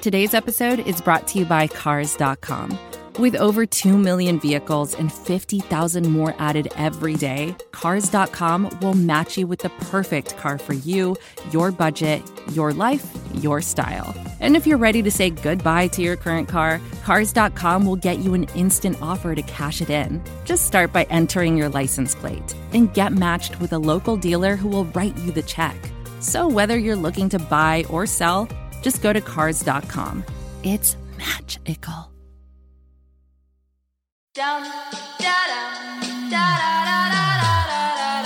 Today's episode is brought to you by Cars.com. With over 2 million vehicles and 50,000 more added every day, Cars.com will match you with the perfect car for you, your budget, your life, your style. And if you're ready to say goodbye to your current car, Cars.com will get you an instant offer to cash it in. Just start by entering your license plate and get matched with a local dealer who will write you the check. So whether you're looking to buy or sell, just go to Cars.com. It's magical. Down, da da da da da da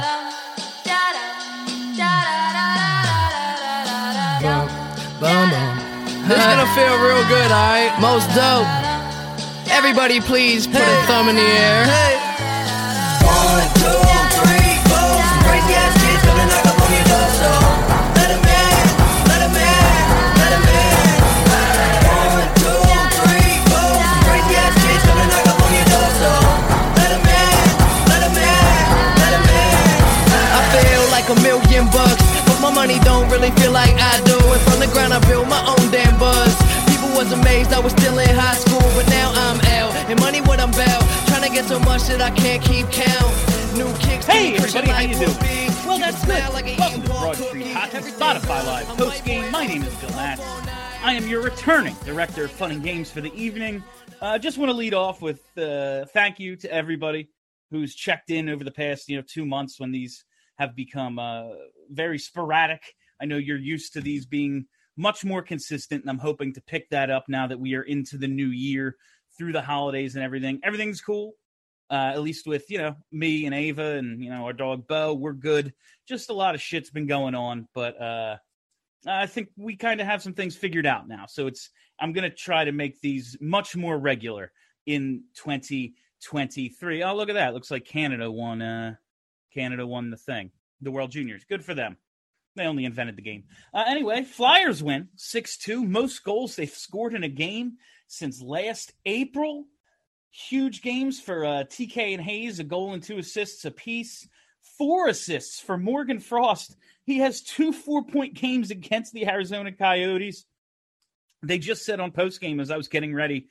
da da da. This gonna feel real good, alright? Most dope. Everybody please put a thumb in the air. 1, 2, 3, 4. Some crazy ass kids coming knock up on your door, so let 'em in, let 'em in, let 'em in. 1, 2, 3, 4. Some crazy ass kids coming knock up on your door, so let 'em in, let 'em in, let 'em in. I feel like $1,000,000, but my money don't really feel like I do. And from the ground I built my own damn buzz. People was amazed I was still in high school, but now I'm out. And money what I'm about, trying to get so much that I can't keep count. New kicks. Hey everybody, how you doing? Well, that's good. Welcome to Broad Street Hot and Spotify Live Post Game. My name is Bill Natz. I am your returning director of fun and games for the evening. Just want to lead off with thank you to everybody who's checked in over the past 2 months when these have become very sporadic. I know you're used to these being much more consistent, and I'm hoping to pick that up now that we are into the new year, through the holidays and everything. Everything's cool, at least with, me and Ava and, our dog Bo. We're good. Just a lot of shit's been going on, but I think we kind of have some things figured out now. So I'm going to try to make these much more regular in 2023. Oh, look at that. Looks like Canada won the thing, the World Juniors. Good for them. They only invented the game. Anyway, Flyers win 6-2. Most goals they've scored in a game since last April. Huge games for TK and Hayes, a goal and 2 assists apiece. 4 assists for Morgan Frost. He has 2 4-point games against the Arizona Coyotes. They just said on postgame as I was getting ready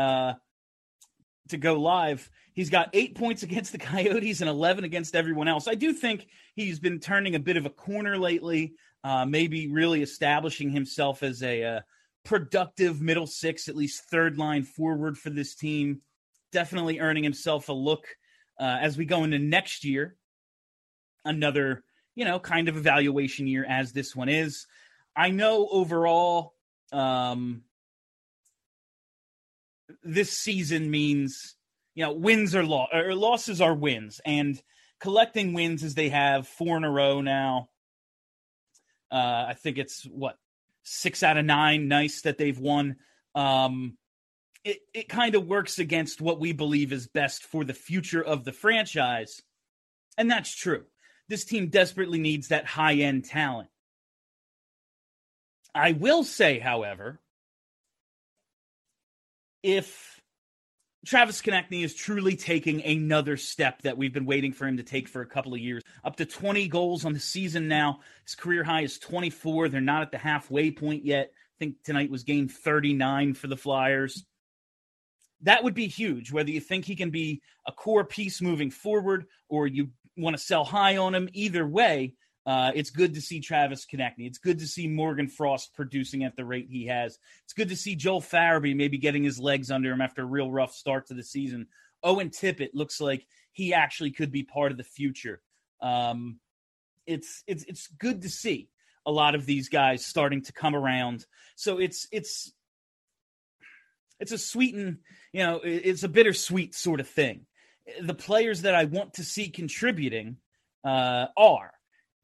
to go live, he's got 8 points against the Coyotes and 11 against everyone else. I do think he's been turning a bit of a corner lately, maybe really establishing himself as a productive middle six, at least third line forward for this team. Definitely earning himself a look as we go into next year. Another, kind of evaluation year as this one is. I know overall this season means, wins or losses are wins, and collecting wins as they have 4 in a row now. I think it's 6 out of 9. Nice that they've won. It kind of works against what we believe is best for the future of the franchise. And that's true. This team desperately needs that high-end talent. I will say, however, if Travis Konecny is truly taking another step that we've been waiting for him to take for a couple of years, up to 20 goals on the season now. His career high is 24. They're not at the halfway point yet. I think tonight was game 39 for the Flyers. That would be huge, whether you think he can be a core piece moving forward or you want to sell high on him. Either way, it's good to see Travis Konecny. It's good to see Morgan Frost producing at the rate he has. It's good to see Joel Farabee maybe getting his legs under him after a real rough start to the season. Owen Tippett looks like he actually could be part of the future. It's good to see a lot of these guys starting to come around. So it's a sweet and, it's a bittersweet sort of thing. The players that I want to see contributing are.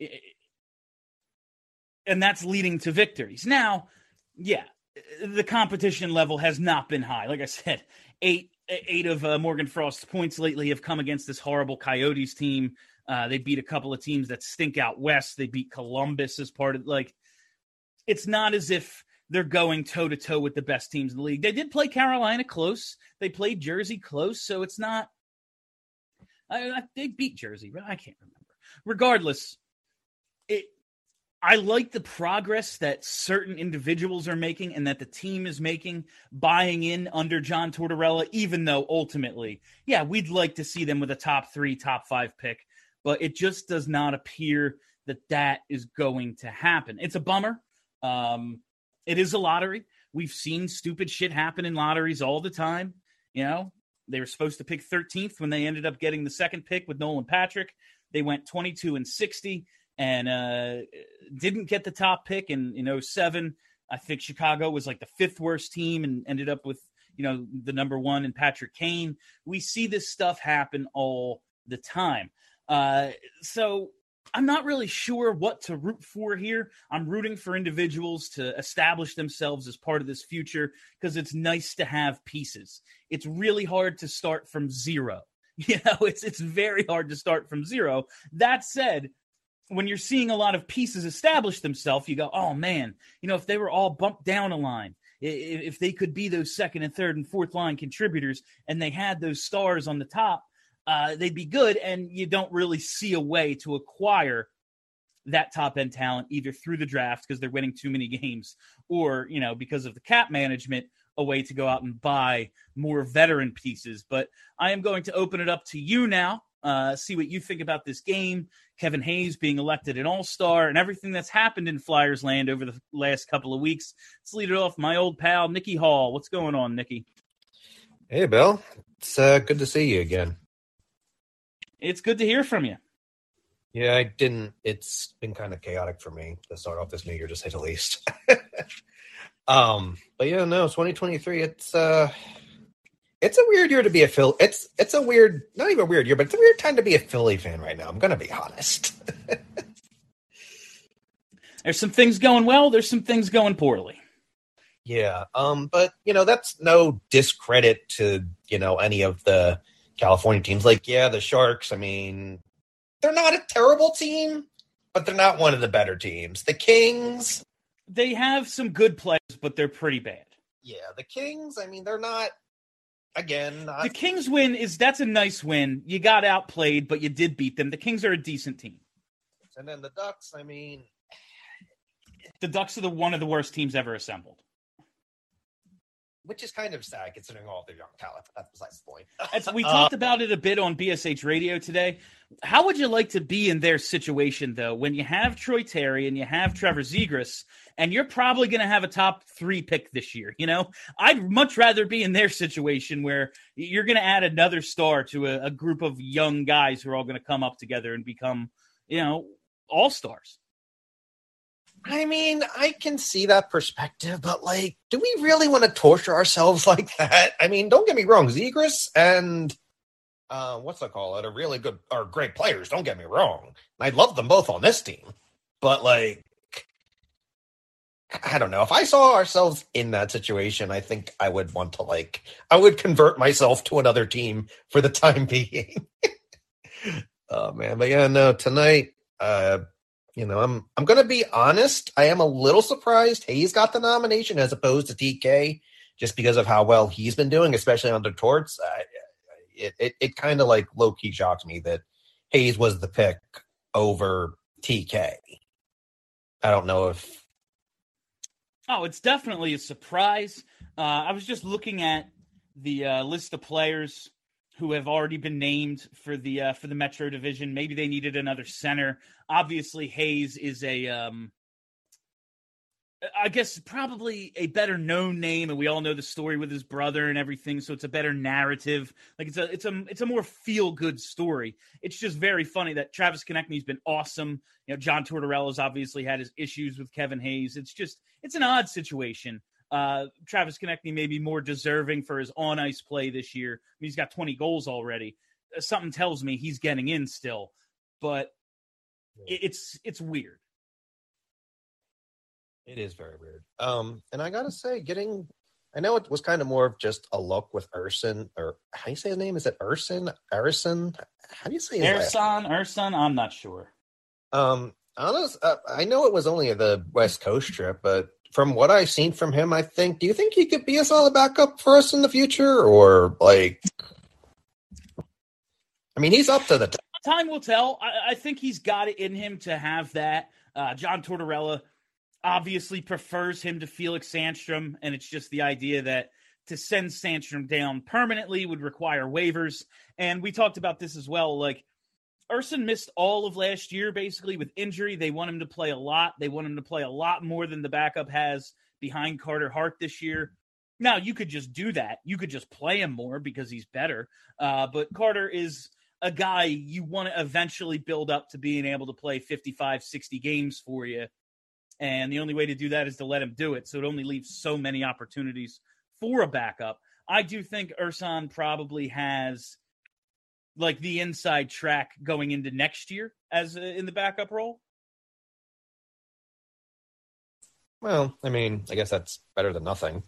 And that's leading to victories. Now, the competition level has not been high. Like I said, eight of Morgan Frost's points lately have come against this horrible Coyotes team. They beat a couple of teams that stink out west. They beat Columbus as part of, it's not as if they're going toe-to-toe with the best teams in the league. They did play Carolina close. They played Jersey close, so it's not they beat Jersey, but I can't remember. Regardless, I like the progress that certain individuals are making and that the team is making, buying in under John Tortorella, even though ultimately, yeah, we'd like to see them with a top 3, top 5 pick, but it just does not appear that is going to happen. It's a bummer. It is a lottery. We've seen stupid shit happen in lotteries all the time. You know, they were supposed to pick 13th when they ended up getting the second pick with Nolan Patrick. They went 22-60 and didn't get the top pick in 2007. I think Chicago was like the 5th worst team and ended up with, the number 1 in Patrick Kane. We see this stuff happen all the time. So I'm not really sure what to root for here. I'm rooting for individuals to establish themselves as part of this future because it's nice to have pieces. It's really hard to start from zero. It's very hard to start from zero. That said, when you're seeing a lot of pieces establish themselves, you go, oh man, if they were all bumped down a line, if they could be those second and third and fourth line contributors and they had those stars on the top, they'd be good, and you don't really see a way to acquire that top-end talent either through the draft because they're winning too many games or, because of the cap management, a way to go out and buy more veteran pieces. But I am going to open it up to you now, see what you think about this game, Kevin Hayes being elected an all-star, and everything that's happened in Flyers land over the last couple of weeks. Let's lead it off. My old pal, Nicky Hall. What's going on, Nicky? Hey, Bill. It's good to see you again. It's good to hear from you. Yeah, it's been kind of chaotic for me to start off this new year, to say the least. But yeah, no, 2023, it's a weird year to be a Philly. It's a weird, not even a weird year, but it's a weird time to be a Philly fan right now. I'm going to be honest. There's some things going well. There's some things going poorly. Yeah. But that's no discredit to, any of the California teams. Like, yeah, the Sharks, I mean, they're not a terrible team, but they're not one of the better teams. The Kings, they have some good players, but they're pretty bad. Yeah, the Kings, I mean, they're not, the Kings win that's a nice win. You got outplayed, but you did beat them. The Kings are a decent team. And then the Ducks, I mean, the Ducks are one of the worst teams ever assembled. Which is kind of sad considering all their young talent. That's besides the point. We talked about it a bit on BSH Radio today. How would you like to be in their situation, though, when you have Troy Terry and you have Trevor Zegras, and you're probably going to have a top 3 pick this year? I'd much rather be in their situation where you're going to add another star to a group of young guys who are all going to come up together and become, all-stars. I mean, I can see that perspective, but, do we really want to torture ourselves like that? I mean, don't get me wrong. Zegras and, are really good or great players. Don't get me wrong. I love them both on this team. But, I don't know. If I saw ourselves in that situation, I think I would want to, I would convert myself to another team for the time being. Oh, man. But, yeah, no, tonight, I'm going to be honest. I am a little surprised Hayes got the nomination as opposed to TK, just because of how well he's been doing, especially under Torts. It kind of low key shocked me that Hayes was the pick over TK. I don't know if. Oh, it's definitely a surprise. I was just looking at the list of players who have already been named for the Metro Division. Maybe they needed another center. Obviously, Hayes is I guess probably a better known name, and we all know the story with his brother and everything, so it's a better narrative. It's a more feel good story. It's just very funny that Travis Konechny's been awesome. John Tortorella's obviously had his issues with Kevin Hayes. It's an odd situation. Travis Konechny may be more deserving for his on-ice play this year. I mean, he's got 20 goals already. Something tells me he's getting in still, but it's weird. It is very weird. And I gotta say, I know it was kind of more of just a look with Urson, or how do you say his name? Is it Urson? Arison? How do you say his name? Urson? I'm not sure. I know it was only the West Coast trip, but from what I've seen from him, do you think he could be a solid backup for us in the future? Or he's up to the time will tell. I think he's got it in him to have that. John Tortorella obviously prefers him to Felix Sandstrom, and it's just the idea that to send Sandstrom down permanently would require waivers. And we talked about this as well. Like, Urson missed all of last year, basically, with injury. They want him to play a lot. They want him to play a lot more than the backup has behind Carter Hart this year. Now, you could just do that. You could just play him more because he's better. But Carter is a guy you want to eventually build up to being able to play 55, 60 games for you. And the only way to do that is to let him do it. So it only leaves so many opportunities for a backup. I do think Urson probably has like the inside track going into next year as in the backup role. Well, I mean, I guess that's better than nothing.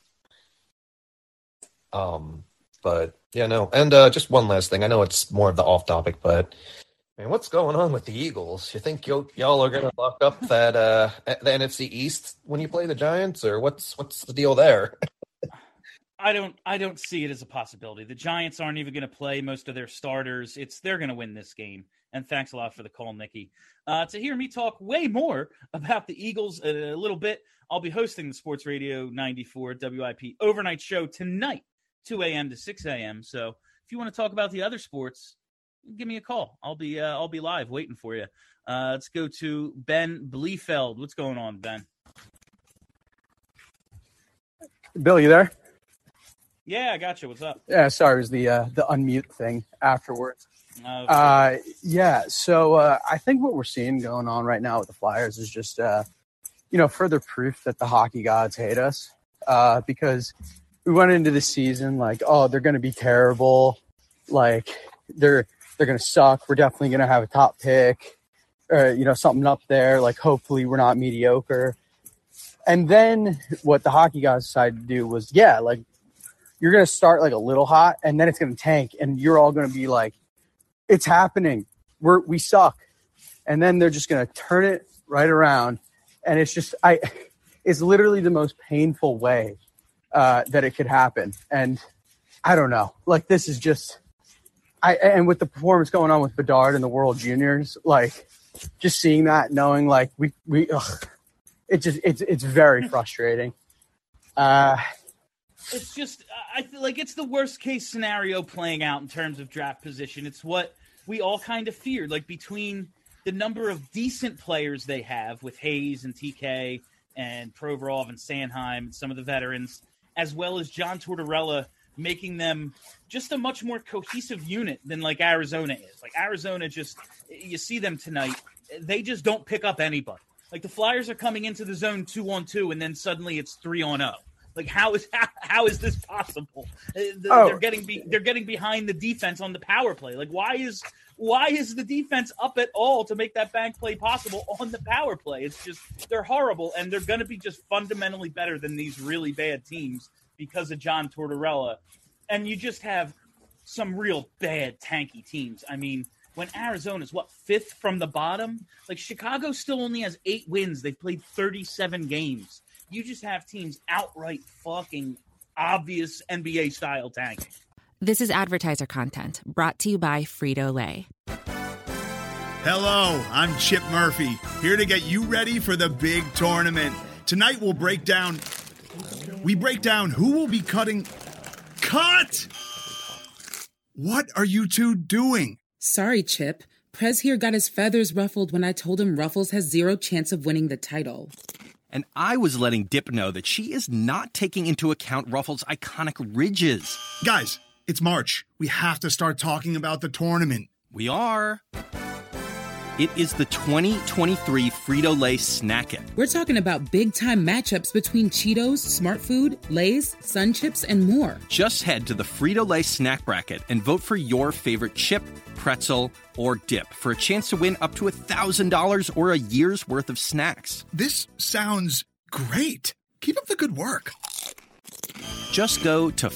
But yeah, no. And just one last thing. I know it's more of the off topic, but man, what's going on with the Eagles? You think y'all are gonna lock up that the NFC East when you play the Giants, or what's the deal there? I don't see it as a possibility. The Giants aren't even going to play most of their starters. They're going to win this game. And thanks a lot for the call, Nikki. To hear me talk way more about the Eagles a little bit, I'll be hosting the Sports Radio 94 WIP overnight show tonight, 2 a.m. to 6 a.m. So if you want to talk about the other sports, give me a call. I'll be live waiting for you. Let's go to Ben Bleefeld. What's going on, Ben? Bill, you there? Yeah, I got you. What's up? Yeah, sorry, it was the unmute thing afterwards. Okay. So I think what we're seeing going on right now with the Flyers is just, further proof that the hockey gods hate us because we went into the season like, oh, they're going to be terrible. Like, they're going to suck. We're definitely going to have a top pick or, something up there. Like, hopefully we're not mediocre. And then what the hockey gods decided to do was, you're going to start like a little hot and then it's going to tank and you're all going to be like, it's happening. We suck. And then they're just going to turn it right around. And it's just, it's literally the most painful way that it could happen. And I don't know, like this is just, and with the performance going on with Bedard and the World Juniors, like just seeing that, knowing like it's very frustrating. It's just, I feel like it's the worst case scenario playing out in terms of draft position. It's what we all kind of feared, like between the number of decent players they have with Hayes and TK and Provorov and Sanheim and some of the veterans, as well as John Tortorella making them just a much more cohesive unit than like Arizona is. Like Arizona just, you see them tonight, they just don't pick up anybody. Like the Flyers are coming into the zone 2-on-2 and then suddenly it's 3-on-0. Like how is this possible? They're getting behind the defense on the power play. Like why is the defense up at all to make that bank play possible on the power play? It's just they're horrible and they're going to be just fundamentally better than these really bad teams because of John Tortorella. And you just have some real bad tanky teams. I mean, when Arizona's fifth from the bottom, like Chicago still only has 8 wins. They've played 37 games. You just have teams outright fucking obvious NBA style tanking. This is advertiser content brought to you by Frito-Lay. Hello, I'm Chip Murphy, here to get you ready for the big tournament. Tonight we'll break down who will be cutting. Cut! What are you two doing? Sorry, Chip. Prez here got his feathers ruffled when I told him Ruffles has 0 chance of winning the title. And I was letting Dip know that she is not taking into account Ruffles' iconic ridges. Guys, it's March. We have to start talking about the tournament. We are. It is the 2023 Frito-Lay Snack It. We're talking about big-time matchups between Cheetos, Smart Food, Lay's, Sun Chips, and more. Just head to the Frito-Lay Snack Bracket and vote for your favorite chip, pretzel, or dip for a chance to win up to $1,000 or a year's worth of snacks. This sounds great. Keep up the good work. Just go to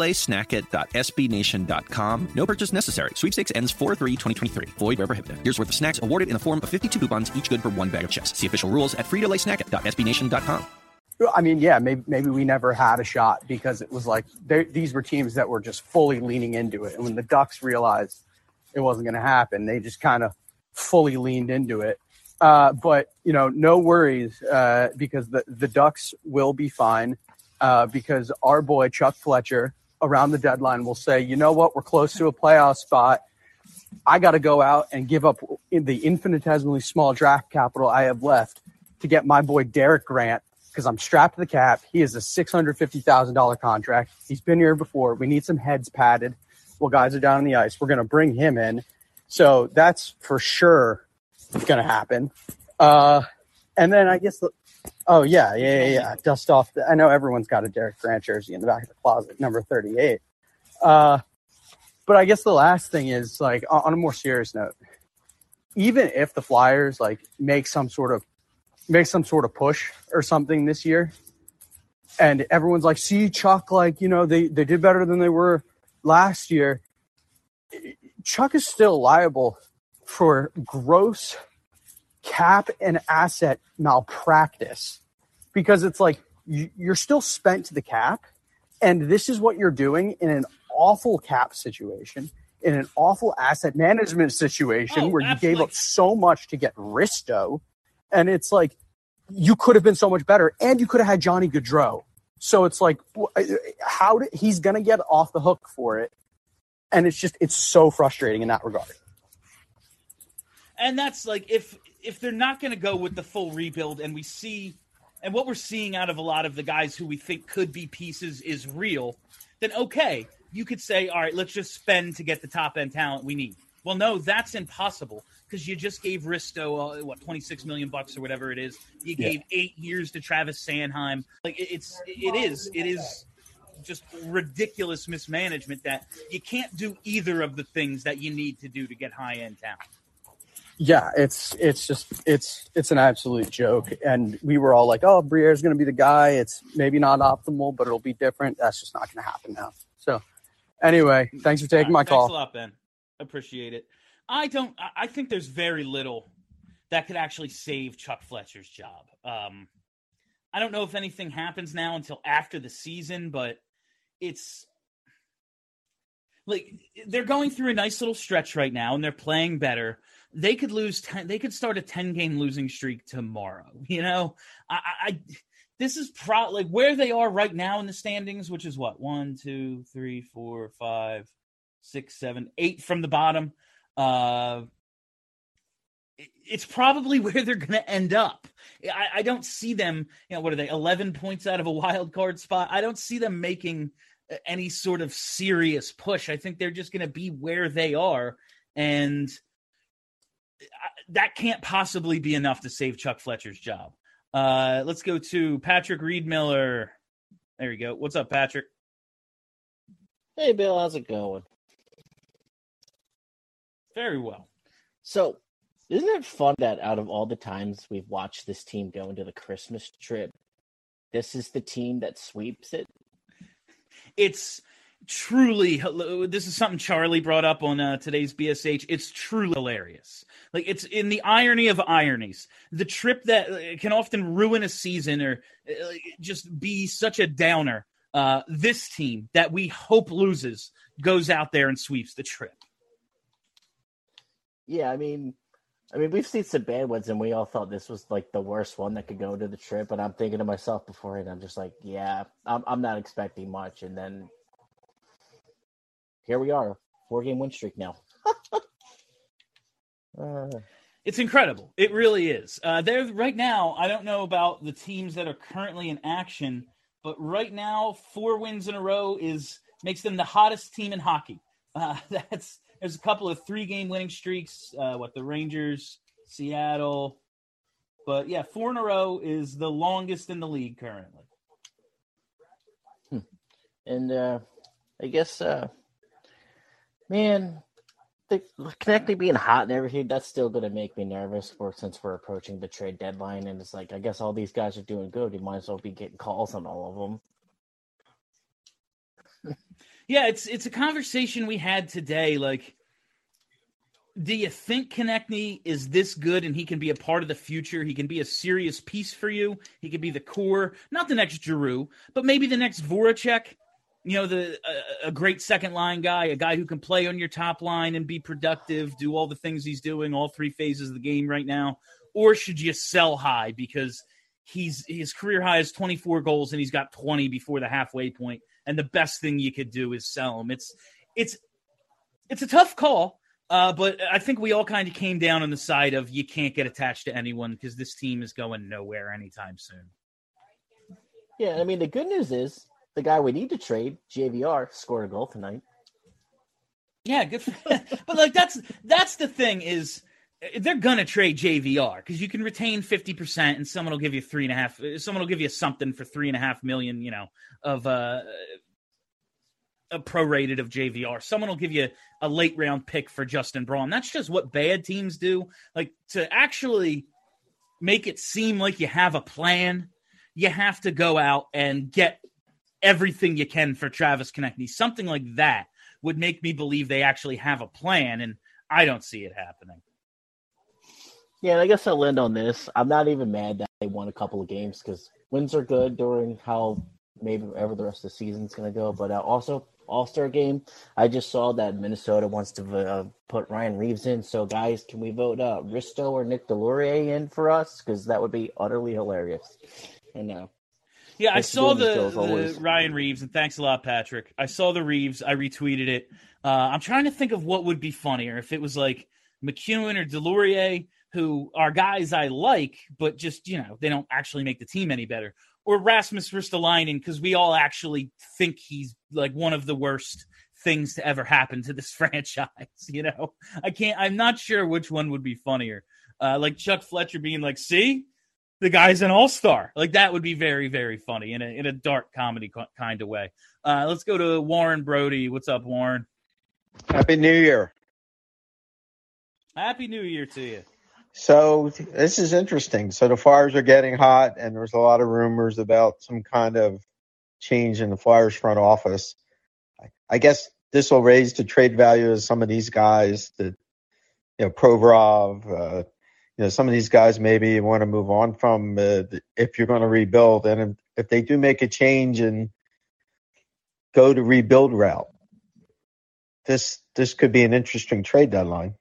fritolaysnackit.sbnation.com. No purchase necessary. Sweepstakes ends 4/3/2023. Void where prohibited. Year's worth of snacks awarded in the form of 52 coupons, each good for 1 bag of chips. See official rules at fritolaysnackit.sbnation.com. I mean, yeah, maybe we never had a shot because it was like these were teams that were just fully leaning into it. And when the Ducks realized it wasn't going to happen, they just kind of fully leaned into it. But, no worries because the Ducks will be fine because our boy Chuck Fletcher around the deadline will say, you know what, we're close to a playoff spot. I got to go out and give up the infinitesimally small draft capital I have left to get my boy Derek Grant because I'm strapped to the cap. He is a $650,000 contract. He's been here before. We need some heads padded while guys are down on the ice. We're going to bring him in. So that's for sure going to happen. And then I guess dust off. I know everyone's got a Derek Grant jersey in the back of the closet, number 38. But I guess the last thing is, like, on a more serious note, even if the Flyers make some sort of push or something this year, and everyone's like, see, Chuck, they did better than they were last year. Chuck is still liable for gross cap and asset malpractice because it's like you're still spent to the cap, and this is what you're doing in an awful cap situation, in an awful asset management situation where you gave up so much to get Risto, and it's like you could have been so much better, and you could have had Johnny Gaudreau. So it's like, he's going to get off the hook for it, and it's so frustrating in that regard. And that's like if they're not going to go with the full rebuild, and what we're seeing out of a lot of the guys who we think could be pieces is real, then okay, you could say, all right, let's just spend to get the top-end talent we need. Well, no, that's impossible because you just gave Risto, $26 million or whatever it is. You gave 8 years to Travis Sanheim. Like it is just ridiculous mismanagement that you can't do either of the things that you need to do to get high-end talent. Yeah, it's an absolute joke. And we were all like, oh, Briere's going to be the guy. It's maybe not optimal, but it'll be different. That's just not going to happen now. So anyway, thanks for taking my call. Thanks a lot, Ben. Appreciate it. I think there's very little that could actually save Chuck Fletcher's job. I don't know if anything happens now until after the season, but it's like they're going through a nice little stretch right now and they're playing better. They could start a 10-game losing streak tomorrow. This is like where they are right now in the standings, which is what? 1, 2, 3, 4, 5, 6, 7, 8 from the bottom. It's probably where they're going to end up. I don't see them, what are they, 11 points out of a wild card spot? I don't see them making any sort of serious push. I think they're just going to be where they are. And that can't possibly be enough to save Chuck Fletcher's job. Let's go to Patrick Reed-Miller. There you go. What's up, Patrick? Hey, Bill. How's it going? Very well. So, isn't it fun that out of all the times we've watched this team go into the Christmas trip, this is the team that sweeps it? It's truly, this is something Charlie brought up on today's BSH. It's truly hilarious. Like, it's in the irony of ironies. The trip that can often ruin a season or just be such a downer. This team that we hope loses goes out there and sweeps the trip. Yeah, I mean, we've seen some bad ones, and we all thought this was like the worst one that could go to the trip. And I'm thinking to myself beforehand, I'm just like, yeah, I'm not expecting much. And then here we are, 4-game win streak now. It's incredible. It really is. They're right now. I don't know about the teams that are currently in action, but right now, 4 wins in a row makes them the hottest team in hockey. There's a couple of 3-game winning streaks. The Rangers, Seattle, but yeah, 4 in a row is the longest in the league currently. And I guess, man, the Konechny being hot and everything, that's still going to make me nervous since we're approaching the trade deadline. And it's like, I guess all these guys are doing good. You might as well be getting calls on all of them. Yeah, it's a conversation we had today. Like, do you think Konechny is this good and he can be a part of the future? He can be a serious piece for you. He could be the core, not the next Giroux, but maybe the next Voracek. A great second line guy, a guy who can play on your top line and be productive, do all the things he's doing, all 3 phases of the game right now. or should you sell high because his career high is 24 goals and he's got 20 before the halfway point, and the best thing you could do is sell him. It's a tough call, but I think we all kind of came down on the side of you can't get attached to anyone because this team is going nowhere anytime soon. Yeah, I mean, the good news is the guy we need to trade, JVR, scored a goal tonight. Yeah, good. But like that's the thing is they're gonna trade JVR because you can retain 50% and someone will give you 3.5. Someone will give you something for $3.5 million. Of a prorated of JVR. Someone will give you a late round pick for Justin Braun. That's just what bad teams do. Like to actually make it seem like you have a plan, you have to go out and get everything you can for Travis Konecny. Something like that would make me believe they actually have a plan, and I don't see it happening. Yeah, and I guess I'll end on this. I'm not even mad that they won a couple of games because wins are good during how maybe ever the rest of the season's going to go. But also, All-Star game, I just saw that Minnesota wants to put Ryan Reeves in. So, guys, can we vote Risto or Nick Delorier in for us? Because that would be utterly hilarious. And yeah, I saw the Ryan Reeves, and thanks a lot, Patrick. I saw the Reeves. I retweeted it. I'm trying to think of what would be funnier if it was like McEwen or Delorier, who are guys I like, but just, they don't actually make the team any better. Or Rasmus Ristolainen, because we all actually think he's like one of the worst things to ever happen to this franchise. I'm not sure which one would be funnier. Like Chuck Fletcher being like, see? The guy's an all-star. Like, that would be very, very funny in a dark comedy kind of way. Let's go to Warren Brody. What's up, Warren? Happy New Year. Happy New Year to you. So this is interesting. So the Flyers are getting hot, and there's a lot of rumors about some kind of change in the Flyers front office. I guess this will raise the trade value of some of these guys that, Provorov, some of these guys maybe you want to move on from if you're going to rebuild. And if they do make a change and go to rebuild route, this could be an interesting trade deadline.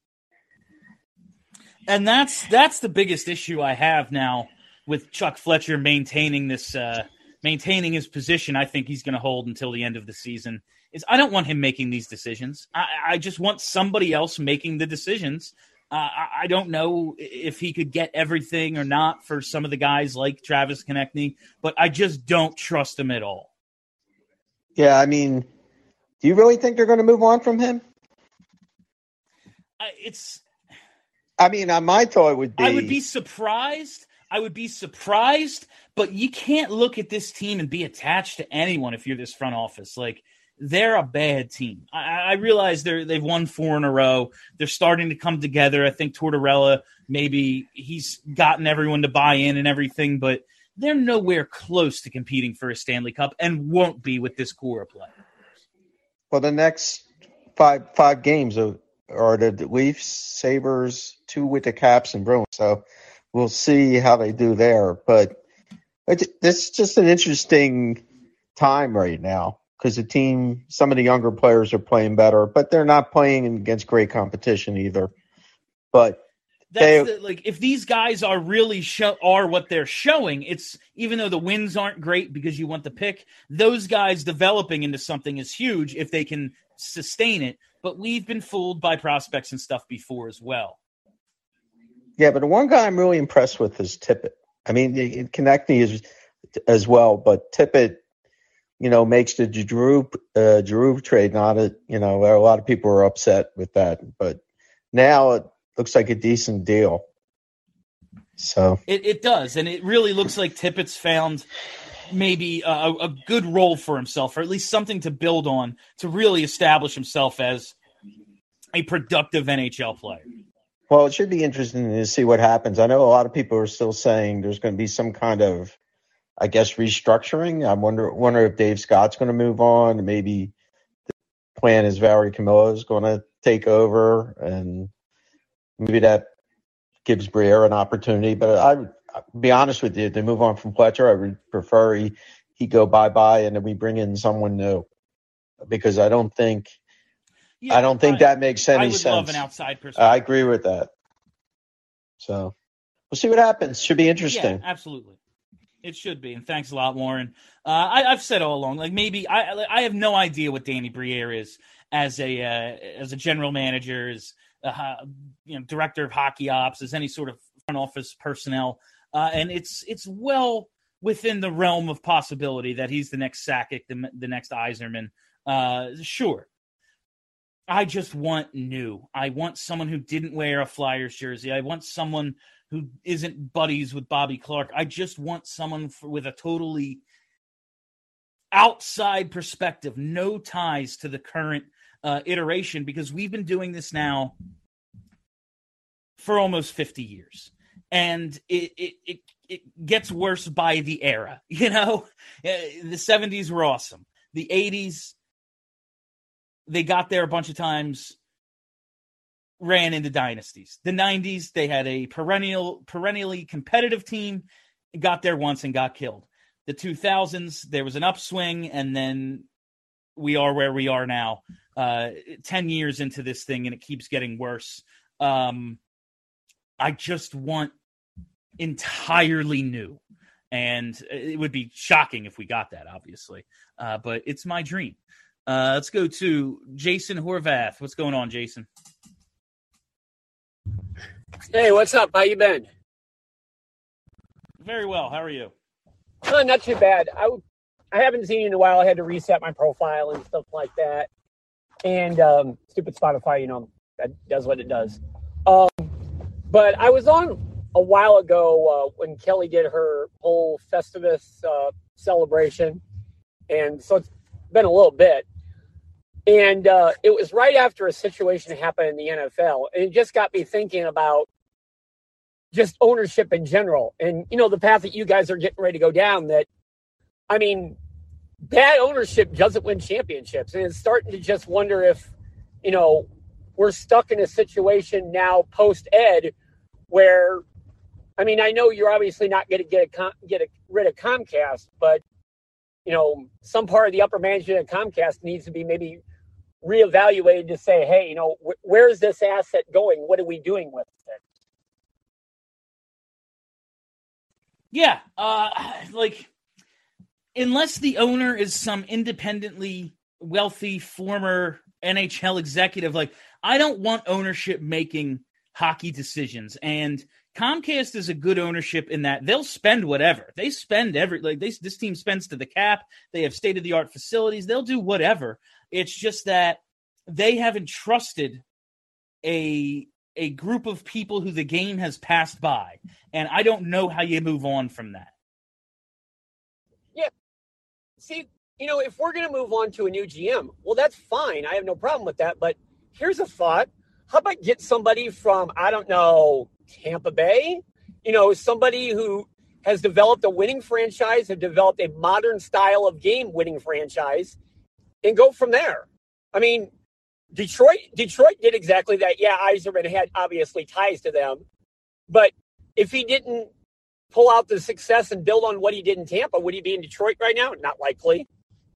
And that's the biggest issue I have now with Chuck Fletcher maintaining his position. I think he's going to hold until the end of the season. Is I don't want him making these decisions. I just want somebody else making the decisions. I don't know if he could get everything or not for some of the guys like Travis Konecny, but I just don't trust him at all. Yeah, I mean, do you really think they're going to move on from him? My thought would be... I would be surprised, but you can't look at this team and be attached to anyone if you're this front office. Like, they're a bad team. I realize they've won 4 in a row. They're starting to come together. I think Tortorella, maybe he's gotten everyone to buy in and everything, but they're nowhere close to competing for a Stanley Cup and won't be with this core of play. Well, the next five games are the Leafs, Sabres, 2 with the Caps and Bruins. So we'll see how they do there. But this is just an interesting time right now because some of the younger players are playing better, but they're not playing against great competition either. But if these guys are really are what they're showing, it's even though the wins aren't great because you want the pick, those guys developing into something is huge if they can sustain it. But we've been fooled by prospects and stuff before as well. Yeah, but the one guy I'm really impressed with is Tippett. I mean, Konecny is as well, but Tippett, makes the Giroux trade. Not a lot of people are upset with that, but now it looks like a decent deal. So it does, and it really looks like Tippett's found maybe a good role for himself, or at least something to build on to really establish himself as a productive NHL player. Well, it should be interesting to see what happens. I know a lot of people are still saying there's going to be some kind of, I guess, restructuring. I wonder if Dave Scott's going to move on. Maybe the plan is Valerie Camillo is going to take over, and maybe that gives Briere an opportunity. But I'll be honest with you, to move on from Fletcher, I would prefer he go bye-bye and then we bring in someone new, because I don't think that makes any sense. I would love an outside perspective. I agree with that. So We'll see what happens. Should be interesting. Yeah, absolutely. It should be, and thanks a lot, Lauren. I've said all along, like maybe I have no idea what Danny Briere is as a general manager, as director of hockey ops, as any sort of front office personnel, and it's well within the realm of possibility that he's the next Sakic, the next Yzerman. Sure. I just want new. I want someone who didn't wear a Flyers jersey. I want someone who isn't buddies with Bobby Clarke. I just want someone with a totally outside perspective, no ties to the current iteration, because we've been doing this now for almost 50 years. And it gets worse by the era. The 70s were awesome. The 80s, they got there a bunch of times, ran into dynasties. The 90s, they had a perennially competitive team, got there once and got killed. The 2000s, there was an upswing, and then we are where we are now, 10 years into this thing, and it keeps getting worse. I just want entirely new, and it would be shocking if we got that, obviously, but it's my dream. Let's go to Jason Horvath. What's going on, Jason? Hey, what's up? How you been? Very well. How are you? Not too bad. I haven't seen you in a while. I had to reset my profile and stuff like that. And stupid Spotify, that does what it does. But I was on a while ago when Kelly did her whole Festivus celebration. And so it's been a little bit. And it was right after a situation happened in the NFL. And it just got me thinking about just ownership in general. And, the path that you guys are getting ready to go down, that, bad ownership doesn't win championships. And it's starting to just wonder if, we're stuck in a situation now post-Ed where, I know you're obviously not going to get rid of Comcast, but, some part of the upper management of Comcast needs to be maybe reevaluated to say, hey, where's this asset going? What are we doing with it? Yeah. Unless the owner is some independently wealthy former NHL executive, I don't want ownership making hockey decisions. And Comcast is a good ownership in that they'll spend whatever. They spend this team spends to the cap. They have state-of-the-art facilities. They'll do whatever. It's just that they haven't trusted a group of people who the game has passed by. And I don't know how you move on from that. Yeah. See, if we're going to move on to a new GM, well, that's fine. I have no problem with that. But here's a thought. How about get somebody from, Tampa Bay? Somebody who has developed a winning franchise, have developed a modern style of game winning franchise, and go from there. Detroit did exactly that. Yeah, Yzerman had obviously ties to them. But if he didn't pull out the success and build on what he did in Tampa, would he be in Detroit right now? Not likely.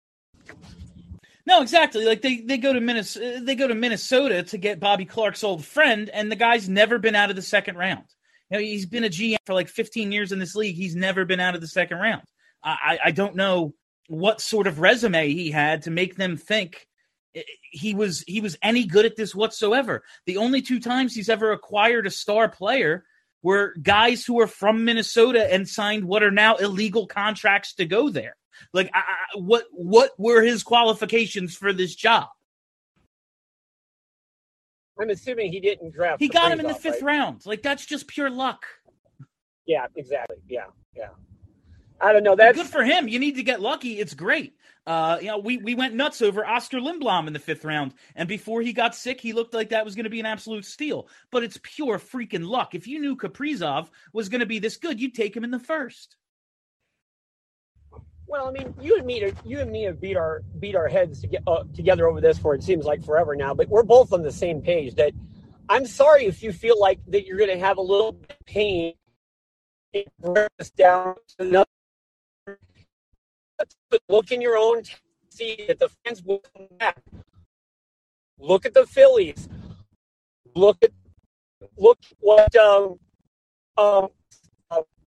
No, exactly. They go to Minnesota to get Bobby Clarke's old friend, and the guy's never been out of the second round. He's been a GM for 15 years in this league. He's never been out of the second round. I don't know what sort of resume he had to make them think he was any good at this whatsoever. The only two times he's ever acquired a star player were guys who are from Minnesota and signed what are now illegal contracts to go there. What were his qualifications for this job? I'm assuming he didn't draft. He got him in the fifth round. That's just pure luck. Yeah, exactly. Yeah. I don't know. That's good for him. You need to get lucky. It's great. We went nuts over Oscar Lindblom in the fifth round, and before he got sick, he looked like that was going to be an absolute steal. But it's pure freaking luck. If you knew Kaprizov was going to be this good, you'd take him in the first. Well, you and me have beat our heads together over this for it seems like forever now, but we're both on the same page. That I'm sorry if you feel like that you're going to have a little bit of pain. Down to another. Look in your own, see that the fans will come back. Look at the Phillies. Look what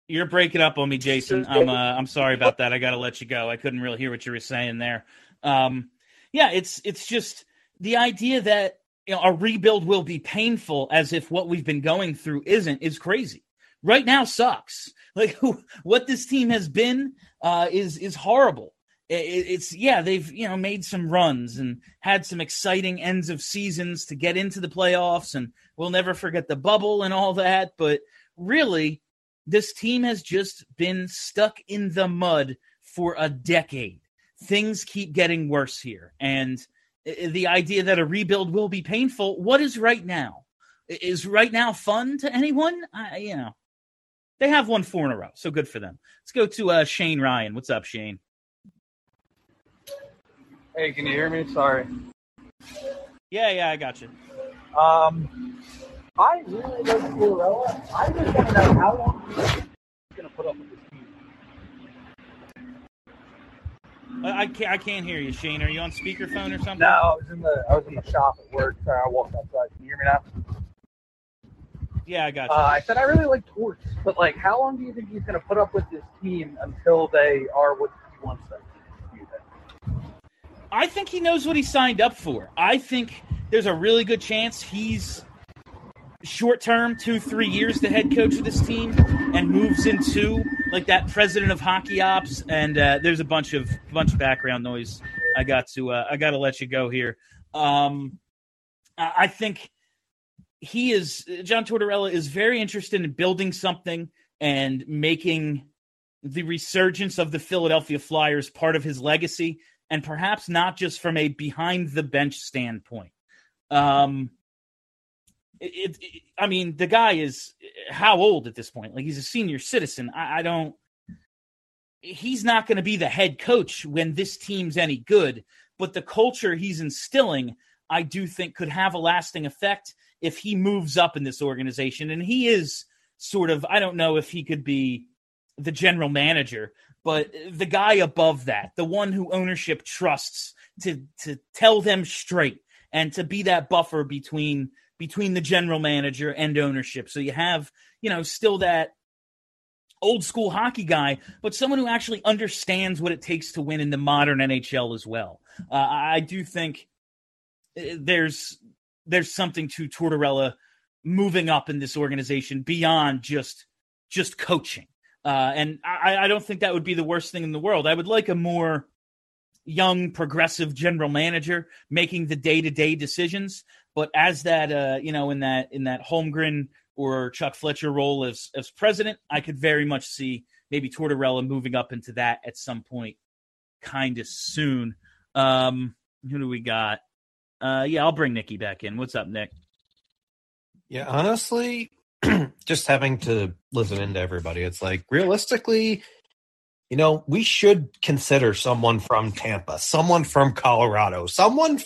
You're breaking up on me, Jason. I'm sorry about that. I got to let you go. I couldn't really hear what you were saying there. Yeah, it's just the idea that a rebuild will be painful, as if what we've been going through is crazy. Right now sucks. Like what this team has been is horrible. They've made some runs and had some exciting ends of seasons to get into the playoffs, and we'll never forget the bubble and all that. But really, this team has just been stuck in the mud for a decade. Things keep getting worse here. And the idea that a rebuild will be painful, what is right now? Is right now fun to anyone? They have won 4 in a row, so good for them. Let's go to Shane Ryan. What's up, Shane? Hey, can you hear me? Sorry. Yeah, I got you. I really like Tortorella. I just want to know how long he's going to put up with this team. I can't hear you, Shane. Are you on speakerphone or something? No, I was in the shop at work. Sorry, I walked outside. Can you hear me now? Yeah, I got you. I said I really like Torts, but how long do you think he's going to put up with this team until they are what he wants them to be? I think he knows what he signed up for. I think there's a really good chance he's short-term, 2-3 years, the head coach of this team, and moves into that president of hockey ops. And there's a bunch of background noise. I got to let you go here. I think John Tortorella is very interested in building something and making the resurgence of the Philadelphia Flyers part of his legacy, and perhaps not just from a behind the bench standpoint. The guy is how old at this point? He's a senior citizen. He's not going to be the head coach when this team's any good, but the culture he's instilling, I do think, could have a lasting effect if he moves up in this organization. And he is sort of, I don't know if he could be the general manager, but the guy above that, the one who ownership trusts to tell them straight and to be that buffer between the general manager and ownership. So you have, still that old school hockey guy, but someone who actually understands what it takes to win in the modern NHL as well. I do think there's something to Tortorella moving up in this organization beyond just coaching. And I don't think that would be the worst thing in the world. I would like a more young, progressive general manager making the day-to-day decisions. But as that, in that Holmgren or Chuck Fletcher role as president, I could very much see maybe Tortorella moving up into that at some point kind of soon. Who do we got? I'll bring Nikki back in. What's up, Nick? Yeah, honestly, just having to listen into everybody, it's realistically, we should consider someone from Tampa, someone from Colorado, someone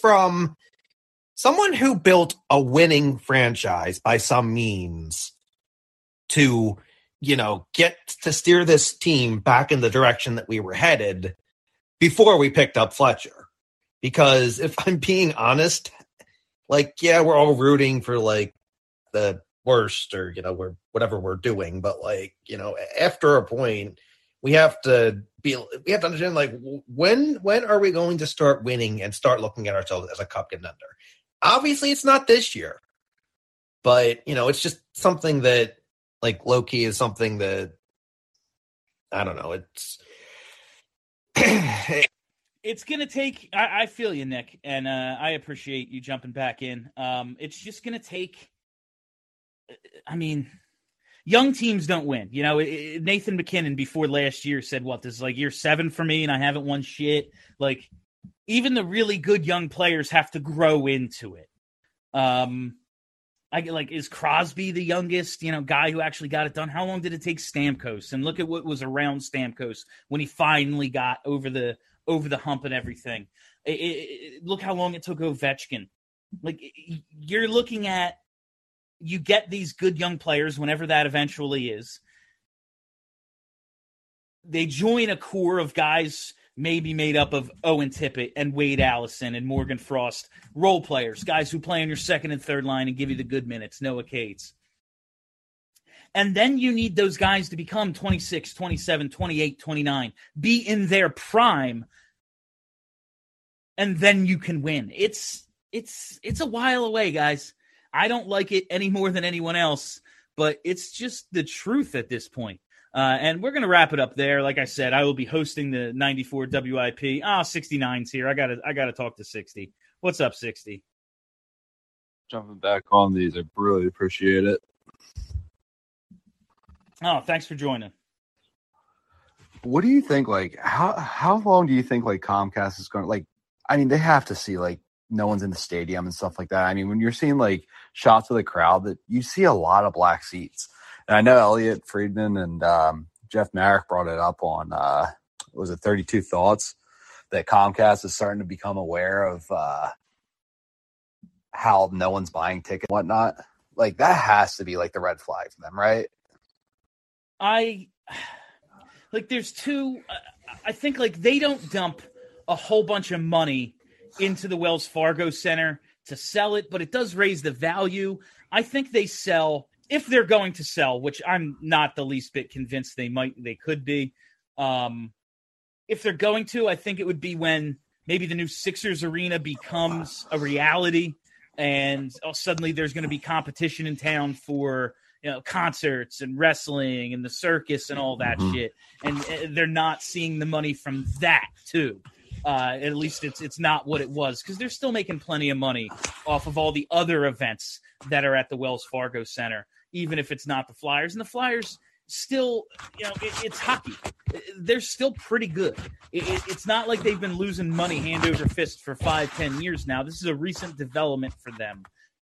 who built a winning franchise by some means to, get to steer this team back in the direction that we were headed before we picked up Fletcher. Because if I'm being honest, we're all rooting for the worst or, whatever we're doing. But after a point, we have to understand, when are we going to start winning and start looking at ourselves as a cup contender? Obviously, it's not this year, but it's just something that, low-key is something that, I don't know. It's going to take, I feel you, Nick, and I appreciate you jumping back in. It's just going to take, young teams don't win. Nathan McKinnon before last year said, this is year 7 for me and I haven't won shit. Even the really good young players have to grow into it. Is Crosby the youngest, guy who actually got it done? How long did it take Stamkos? And look at what was around Stamkos when he finally got over the hump and everything. Look how long it took Ovechkin. You're looking at, you get these good young players whenever that eventually is. They join a core of guys maybe made up of Owen Tippett and Wade Allison and Morgan Frost, role players, guys who play on your second and third line and give you the good minutes, Noah Cates. And then you need those guys to become 26, 27, 28, 29, be in their prime, and then you can win. It's a while away, guys. I don't like it any more than anyone else, but it's just the truth at this point. And we're going to wrap it up there. Like I said, I will be hosting the 94 WIP. 69's here. I gotta talk to 60. What's up, 60? Jumping back on these. I really appreciate it. Oh, thanks for joining. What do you think, like, how long do you think, like, Comcast is going to, like, I mean, they have to see, like, no one's in the stadium and stuff like that. I mean, when you're seeing, like, shots of the crowd, that you see a lot of black seats. And I know Elliot Friedman and Jeff Marek brought it up on, was it 32 Thoughts, that Comcast is starting to become aware of how no one's buying tickets and whatnot. Like, that has to be, like, the red flag for them, right? There's two, I think, like, they don't dump a whole bunch of money into the Wells Fargo Center to sell it, but it does raise the value. I think they sell, if they're going to sell, which I'm not the least bit convinced they could be. If they're going to, I think it would be when maybe the new Sixers arena becomes a reality, and suddenly there's going to be competition in town for, concerts and wrestling and the circus and all that shit. And they're not seeing the money from that too. At least it's not what it was, because they're still making plenty of money off of all the other events that are at the Wells Fargo Center, even if it's not the Flyers. And the Flyers still, it's hockey. They're still pretty good. It's not like they've been losing money hand over fist for 5-10 years now. This is a recent development for them.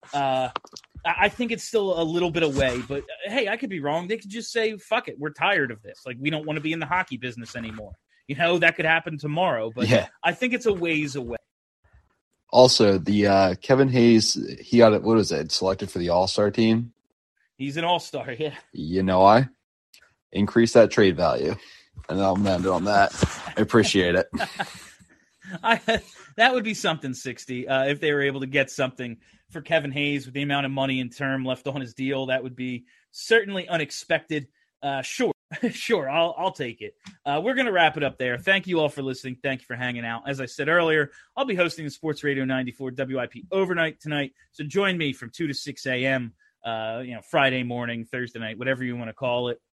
I think it's still a little bit away, but hey, I could be wrong. They could just say, fuck it, we're tired of this. Like, we don't want to be in the hockey business anymore. That could happen tomorrow, but yeah. I think it's a ways away. Also, the Kevin Hayes, he got, what was it, selected for the All-Star team? He's an All-Star, yeah. You know why? Increase that trade value. And I'm going to end it on that. I appreciate it. That would be something, 60. If they were able to get something for Kevin Hayes with the amount of money and term left on his deal, that would be certainly unexpected. Sure, I'll take it. We're going to wrap it up there. Thank you all for listening. Thank you for hanging out. As I said earlier, I'll be hosting the Sports Radio 94 WIP overnight tonight. So join me from 2 to 6 a.m., Friday morning, Thursday night, whatever you want to call it.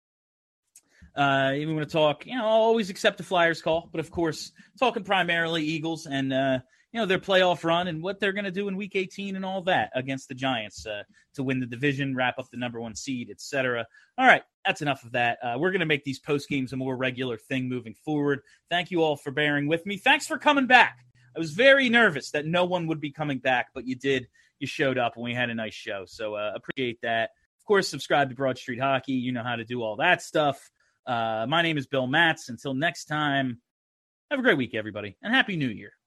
If you want to talk, I'll always accept the Flyers call, but of course, talking primarily Eagles and, their playoff run and what they're going to do in Week 18 and all that against the Giants to win the division, wrap up the number 1 seed, etc. All right, that's enough of that. We're going to make these post games a more regular thing moving forward. Thank you all for bearing with me. Thanks for coming back. I was very nervous that no one would be coming back, but you did. You showed up and we had a nice show, so appreciate that. Of course, subscribe to Broad Street Hockey. You know how to do all that stuff. My name is Bill Matz. Until next time, have a great week, everybody, and Happy New Year.